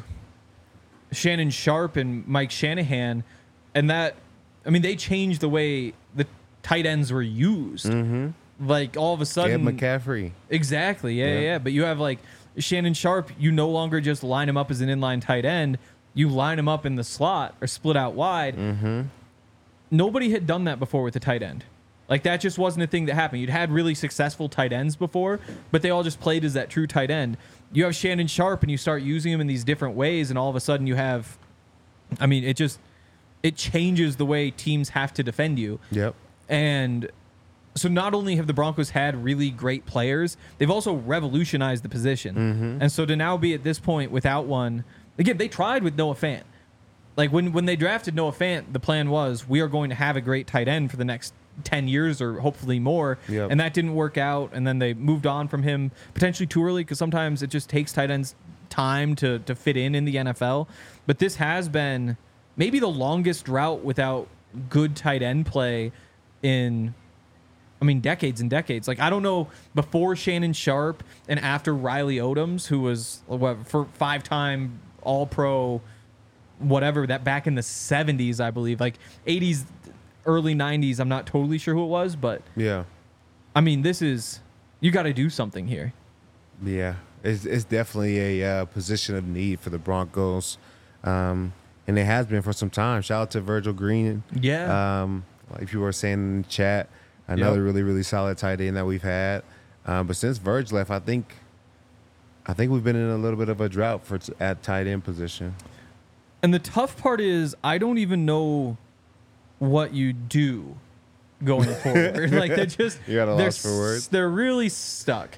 Shannon Sharp and Mike Shanahan, and that, I mean, they changed the way the tight ends were used. Like all of a sudden, McCaffrey. Exactly. Yeah. But you have like Shannon Sharp. You no longer just line him up as an inline tight end. You line him up in the slot or split out wide. Nobody had done that before with a tight end. Like that just wasn't a thing that happened. You'd had really successful tight ends before, but they all just played as that true tight end. You have Shannon Sharp and you start using him in these different ways, and all of a sudden you have, I mean, it changes the way teams have to defend you. Yep. And so not only have the Broncos had really great players, they've also revolutionized the position. And so to now be at this point without one, again, they tried with Noah Fant. Like when they drafted Noah Fant, the plan was we are going to have a great tight end for the next 10 years or hopefully more. Yep. And that didn't work out. And then they moved on from him potentially too early because sometimes it just takes tight ends time to fit in the NFL. But this has been maybe the longest drought without good tight end play in, I mean, decades and decades. Like, I don't know, before Shannon Sharp and after Riley Odoms, who was for 5-time All-Pro, whatever, that back in the 70s, I believe, like 80s, early 90s, I'm not totally sure who it was, but Yeah. I mean, this is, you got to do something here. Yeah. It's definitely a position of need for the Broncos. And it has been for some time. Shout out to Virgil Green. Yeah. Like you were saying in the chat, another really, really solid tight end that we've had. But since Virg left, I think we've been in a little bit of a drought at tight end position. And the tough part is I don't even know what you do going forward. Like they're just, You got a loss for words. They're really stuck.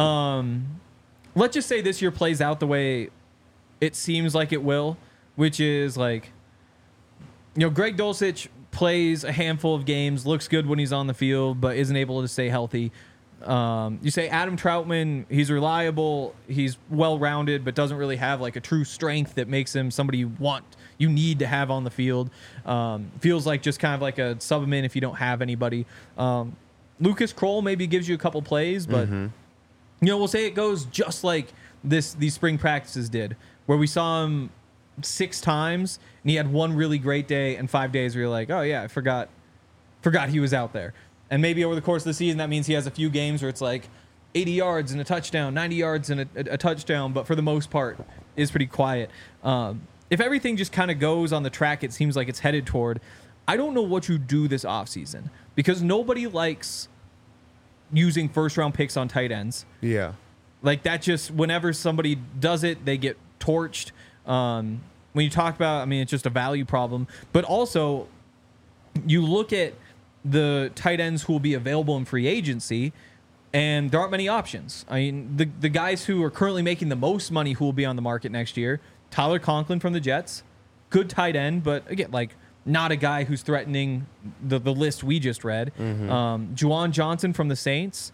Let's just say this year plays out the way it seems like it will, which is like, you know, Greg Dulcich plays a handful of games, looks good when he's on the field, but isn't able to stay healthy. You say Adam Troutman, he's reliable, he's well-rounded, but doesn't really have like a true strength that makes him somebody you need to have on the field. Feels like just kind of like a sub him in if you don't have anybody. Lucas Kroll maybe gives you a couple plays, but you know, we'll say it goes just like these spring practices did, where we saw him 6 times and he had one really great day and 5 days where you're like, oh yeah, I forgot he was out there. And maybe over the course of the season, that means he has a few games where it's like 80 yards and a touchdown, 90 yards and a touchdown, but for the most part is pretty quiet. If everything just kind of goes on the track it seems like it's headed toward, I don't know what you do this offseason, because nobody likes using first-round picks on tight ends. Yeah. Like that, just whenever somebody does it, they get torched. When you talk about, I mean, it's just a value problem. But also, you look at the tight ends who will be available in free agency, and there aren't many options. I mean, the guys who are currently making the most money who will be on the market next year, Tyler Conklin from the Jets, good tight end, but again, like not a guy who's threatening the list we just read. Juwan Johnson from the Saints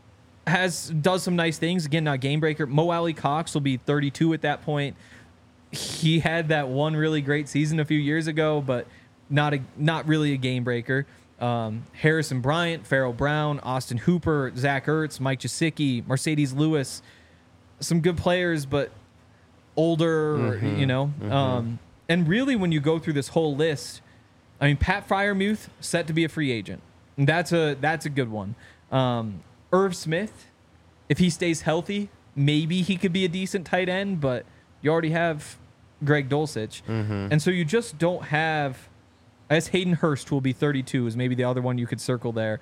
does some nice things. Again, not game breaker. Mo Alley Cox will be 32 at that point. He had that one really great season a few years ago, but not really a game breaker. Harrison Bryant, Farrell Brown, Austin Hooper, Zach Ertz, Mike Gesicki, Mercedes Lewis, some good players, but older, you know. And really, when you go through this whole list, I mean, Pat Freiermuth set to be a free agent. And that's a good one. Irv Smith, if he stays healthy, maybe he could be a decent tight end, but you already have Greg Dulcich. And so you just don't have, I guess Hayden Hurst will be 32 is maybe the other one you could circle there.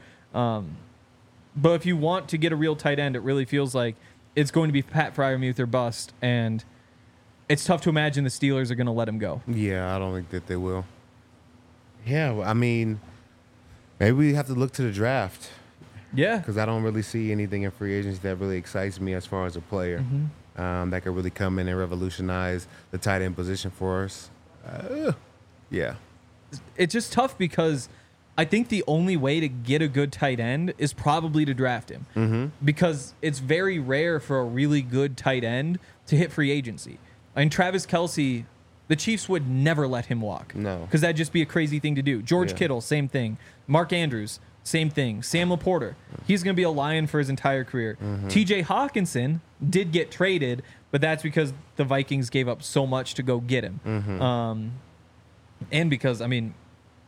But if you want to get a real tight end, it really feels like it's going to be Pat Freiermuth or bust, and it's tough to imagine the Steelers are going to let him go. Yeah, I don't think that they will. Yeah, well, I mean, maybe we have to look to the draft. Yeah. Because I don't really see anything in free agency that really excites me as far as a player that could really come in and revolutionize the tight end position for us. Yeah. It's just tough because I think the only way to get a good tight end is probably to draft him. Because it's very rare for a really good tight end to hit free agency. I mean, Travis Kelce, the Chiefs would never let him walk. No. Because that'd just be a crazy thing to do. George Kittle, same thing. Mark Andrews, same thing. Sam Laporta, he's going to be a Lion for his entire career. TJ Hawkinson did get traded, but that's because the Vikings gave up so much to go get him. And because, I mean,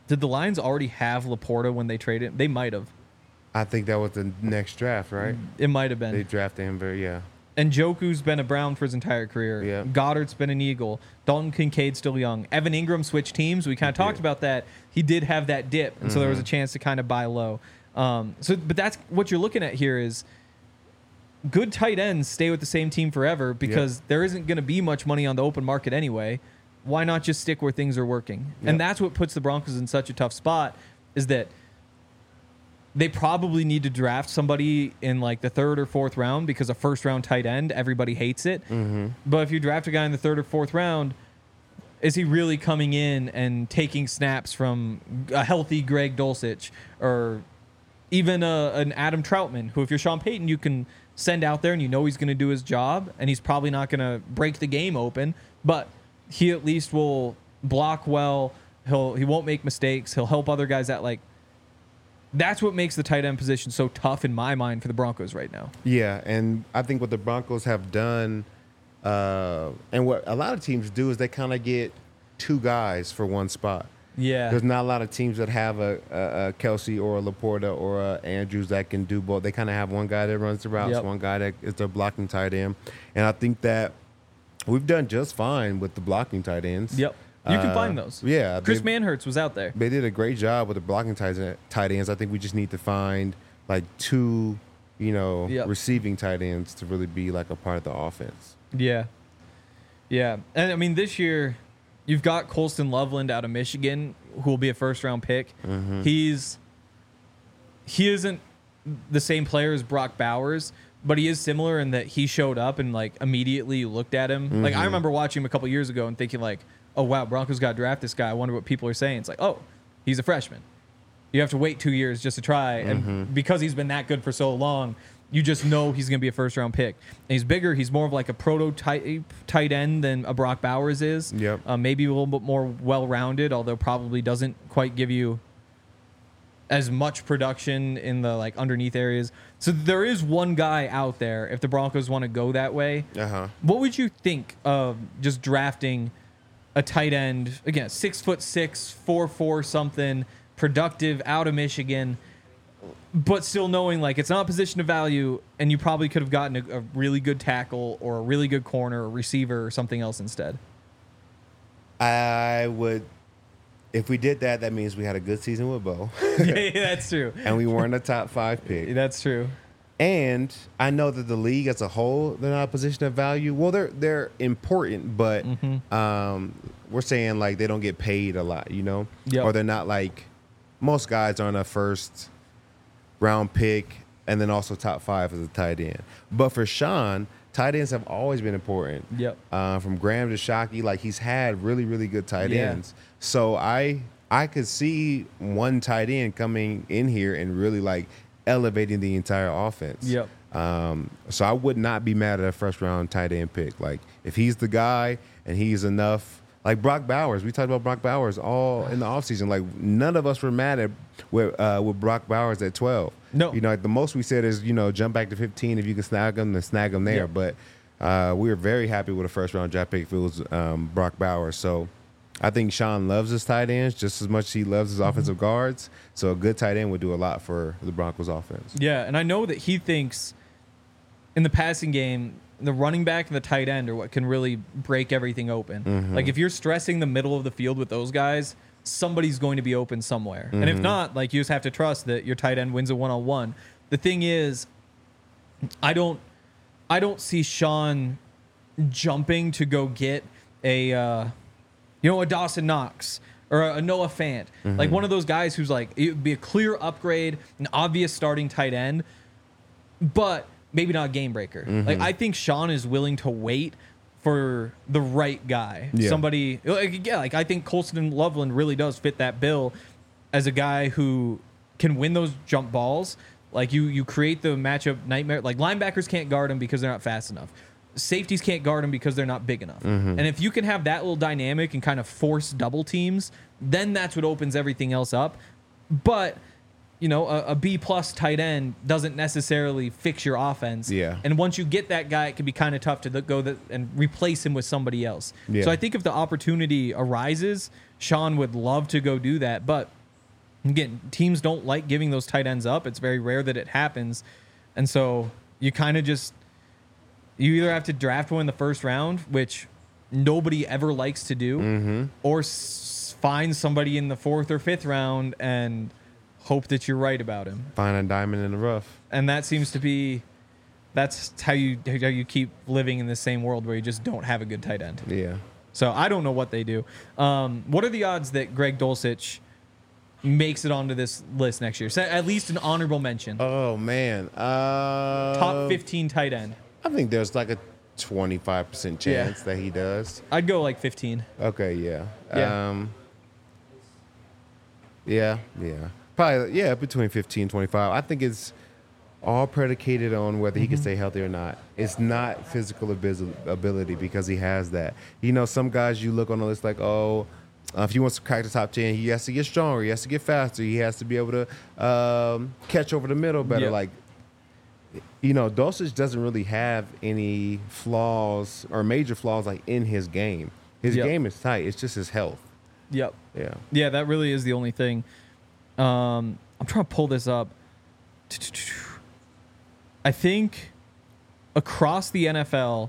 Did the Lions already have Laporta when they traded him? They might have. I think that was the next draft, right? It might have been. They drafted him And Njoku's been a Brown for his entire career. Yeah. Goddard's been an Eagle. Dalton Kincaid's still young. Evan Ingram switched teams. We kind of talked about that. He did have that dip, and so there was a chance to kind of buy low. But that's what you're looking at here is good tight ends stay with the same team forever because there isn't going to be much money on the open market anyway. Why not just stick where things are working? And that's what puts the Broncos in such a tough spot is that they probably need to draft somebody in like the 3rd or 4th round because a first-round tight end, everybody hates it. But if you draft a guy in the 3rd or 4th round, is he really coming in and taking snaps from a healthy Greg Dulcich or even an Adam Troutman, who if you're Sean Payton, you can send out there and you know he's going to do his job and he's probably not going to break the game open, but he at least will block well. He won't make mistakes. He'll help other guys out. Like, that's what makes the tight end position so tough in my mind for the Broncos right now. Yeah, and I think what the Broncos have done, and what a lot of teams do, is they kind of get 2 guys for one spot. Yeah. There's not a lot of teams that have a Kelsey or a Laporta or a Andrews that can do both. They kind of have one guy that runs the routes, one guy that is their blocking tight end. And I think that we've done just fine with the blocking tight ends. Yep. You can find those. Yeah. Chris Manhertz was out there. They did a great job with the blocking tight ends. I think we just need to find like 2, receiving tight ends to really be like a part of the offense. Yeah. Yeah. And I mean, this year you've got Colston Loveland out of Michigan, who will be a first-round pick. He isn't the same player as Brock Bowers, but he is similar in that he showed up and like immediately you looked at him. Like I remember watching him a couple years ago and thinking like, oh wow, Broncos got to draft this guy. I wonder what people are saying. It's like, oh, he's a freshman. You have to wait 2 years just to try, and because he's been that good for so long, you just know he's going to be a first-round pick. And he's bigger. He's more of like a prototype tight end than a Brock Bowers is. Yep. Maybe a little bit more well-rounded, although probably doesn't quite give you as much production in the like underneath areas. So there is one guy out there if the Broncos want to go that way. What would you think of just drafting a tight end, again, 6'6", 4'4", something, productive, out of Michigan, but still knowing like it's not a position of value, and you probably could have gotten a really good tackle or a really good corner or receiver or something else instead? I would, if we did that, that means we had a good season with Bo. Yeah, that's true. And we weren't a top 5 pick. That's true. And I know that the league as a whole, they're not a position of value. Well, they're important, but we're saying like they don't get paid a lot, or they're not like most guys aren't a first round pick and then also top 5 as a tight end. But for Sean, tight ends have always been important. Yep. From Graham to Shockey, like he's had really, really good tight ends. So I could see one tight end coming in here and really like elevating the entire offense. Yep. So I would not be mad at a first round tight end pick. Like if he's the guy and he's enough, like Brock Bowers. We talked about Brock Bowers all in the offseason. Like none of us were mad at with Brock Bowers at 12. No. Like the most we said is, jump back to 15 if you can snag him, then snag him there. Yep. But we were very happy with a first round draft pick if it was Brock Bowers. So I think Sean loves his tight ends just as much as he loves his offensive guards. So a good tight end would do a lot for the Broncos offense. Yeah, and I know that he thinks in the passing game, the running back and the tight end are what can really break everything open. Like if you're stressing the middle of the field with those guys, somebody's going to be open somewhere. And if not, like you just have to trust that your tight end wins a one-on-one. The thing is, I don't see Sean jumping to go get a Dawson Knox or a Noah Fant. Like one of those guys who's like, it would be a clear upgrade, an obvious starting tight end, but maybe not a game breaker. Like I think Sean is willing to wait for the right guy. Yeah. Somebody, like I think Colston Loveland really does fit that bill as a guy who can win those jump balls. Like you create the matchup nightmare. Like linebackers can't guard him because they're not fast enough. Safeties can't guard him because they're not big enough. And if you can have that little dynamic and kind of force double teams, then that's what opens everything else up. But, a B-plus tight end doesn't necessarily fix your offense. Yeah. And once you get that guy, it can be kind of tough to go and replace him with somebody else. Yeah. So I think if the opportunity arises, Sean would love to go do that. But again, teams don't like giving those tight ends up. It's very rare that it happens. And so you kind of just, you either have to draft one in the first round, which nobody ever likes to do, or find somebody in the 4th or 5th round and hope that you're right about him. Find a diamond in the rough. And that seems to be, that's how you keep living in the same world where you just don't have a good tight end. Yeah. So I don't know what they do. What are the odds that Greg Dulcich makes it onto this list next year? So at least an honorable mention. Oh, man. Top 15 tight end. I think there's like a 25% chance that he does. I'd go like 15. Okay, yeah. Yeah. Yeah. Probably, yeah, between 15 and 25. I think it's all predicated on whether he can stay healthy or not. It's not physical ability because he has that. You know, some guys you look on the list like, if he wants to crack the top 10, he has to get stronger. He has to get faster. He has to be able to catch over the middle better. Yep. Like, you know, Dulcich doesn't really have any flaws or major flaws like in his game. His game is tight. It's just his health. Yep. Yeah. Yeah, that really is the only thing. I'm trying to pull this up. I think across the NFL,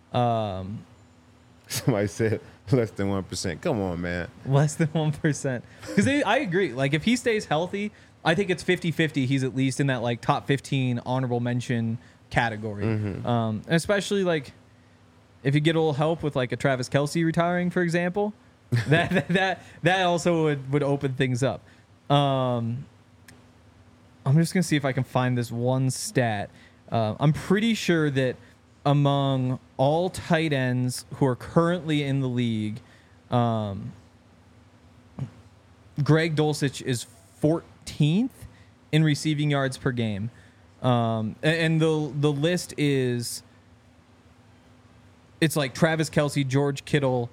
Somebody said less than 1%. Come on, man. less than 1%. Because I agree. Like, if he stays healthy, I think it's 50-50. He's at least in that, like, top 15 honorable mention category. And especially, like, if you get a little help with, like, a Travis Kelce retiring, for example, that also would open things up. I'm just going to see if I can find this one stat. I'm pretty sure that among all tight ends who are currently in the league, Greg Dulcich is 14th in receiving yards per game. And the list is, it's like Travis Kelce, George Kittle,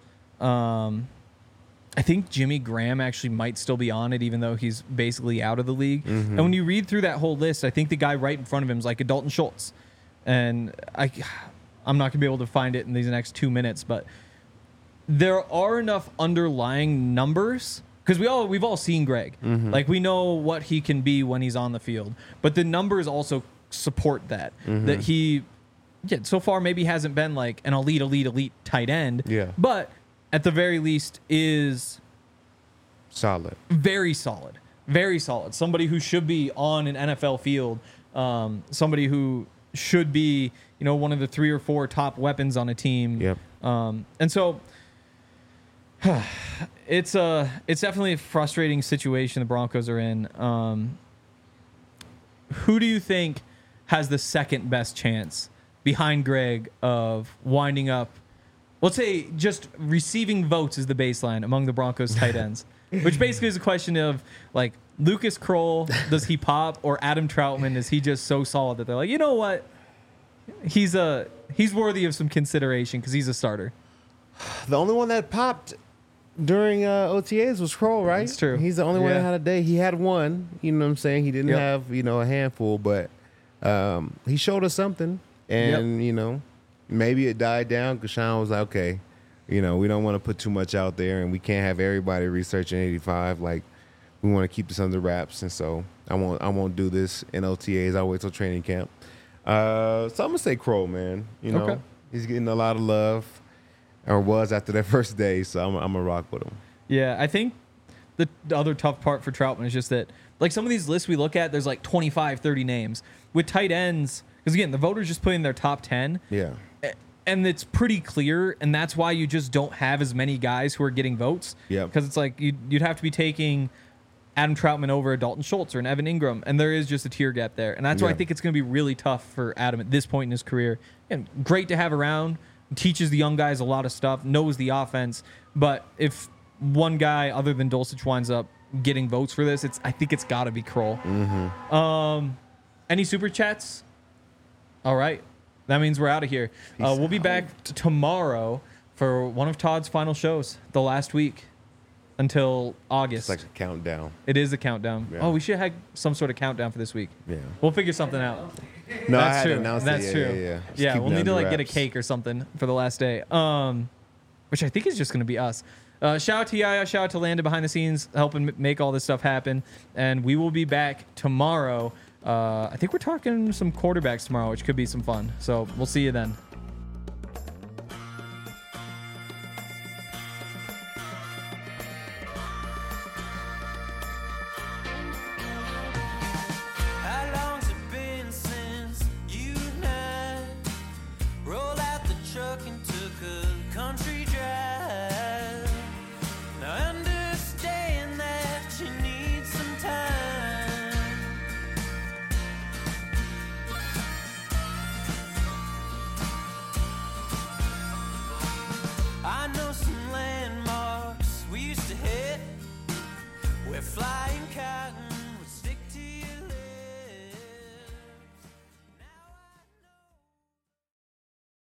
I think Jimmy Graham actually might still be on it, even though he's basically out of the league. And when you read through that whole list, I think the guy right in front of him is like a Dalton Schultz. And I'm not going to be able to find it in these next 2 minutes, but there are enough underlying numbers, because we've all seen Greg. Like, we know what he can be when he's on the field, but the numbers also support that. That he, so far maybe hasn't been like an elite tight end. Yeah. But at the very least is solid. Very solid. Very solid. Somebody who should be on an NFL field. Somebody who should be, you know, one of the 3 or 4 top weapons on a team. Yep. And so it's definitely a frustrating situation the Broncos are in. Who do you think has the second best chance behind Greg of winding up, let's say just receiving votes is the baseline among the Broncos tight ends, which basically is a question of, like, Lucas Kroll, does he pop, or Adam Troutman, is he just so solid that they're like, you know what, he's worthy of some consideration because he's a starter. The only one that popped during OTAs was Kroll, right? That's true. He's the only one that had a day. He had one, you know what I'm saying? He didn't have, you know, a handful, but he showed us something. And, you know, maybe it died down because Sean was like, okay, you know, we don't want to put too much out there and we can't have everybody researching 85. Like, we want to keep this under wraps. And so I won't do this in OTAs. I'll wait till training camp. So I'm going to say Kroll, man. You know, he's getting a lot of love, or was after that first day. So I'm going to rock with him. Yeah, I think the other tough part for Troutman is just that, like, some of these lists we look at, there's like 25, 30 names. With tight ends, because again, the voters just put in their top 10. Yeah. And it's pretty clear, and that's why you just don't have as many guys who are getting votes. Yeah. Because it's like you'd have to be taking Adam Troutman over a Dalton Schultz or an Evan Ingram, and there is just a tier gap there. And that's why I think it's going to be really tough for Adam at this point in his career. And great to have around, teaches the young guys a lot of stuff, knows the offense. But if one guy other than Dulcich winds up getting votes for this, I think it's got to be Kroll. Any super chats? All right. That means we're out of here. We'll be back tomorrow for one of Todd's final shows, the last week until August. It's like a countdown. It is a countdown. Yeah. Oh, we should have some sort of countdown for this week. Yeah. We'll figure something out. No, That's I had true. announced That's it. true. Yeah. Just Yeah, keep we'll it need to under like get a wraps. cake or something for the last day. which I think is just going to be us. Shout out to Yaya, shout out to Landon behind the scenes, helping make all this stuff happen. And we will be back tomorrow. I think we're talking some quarterbacks tomorrow, which could be some fun. So we'll see you then.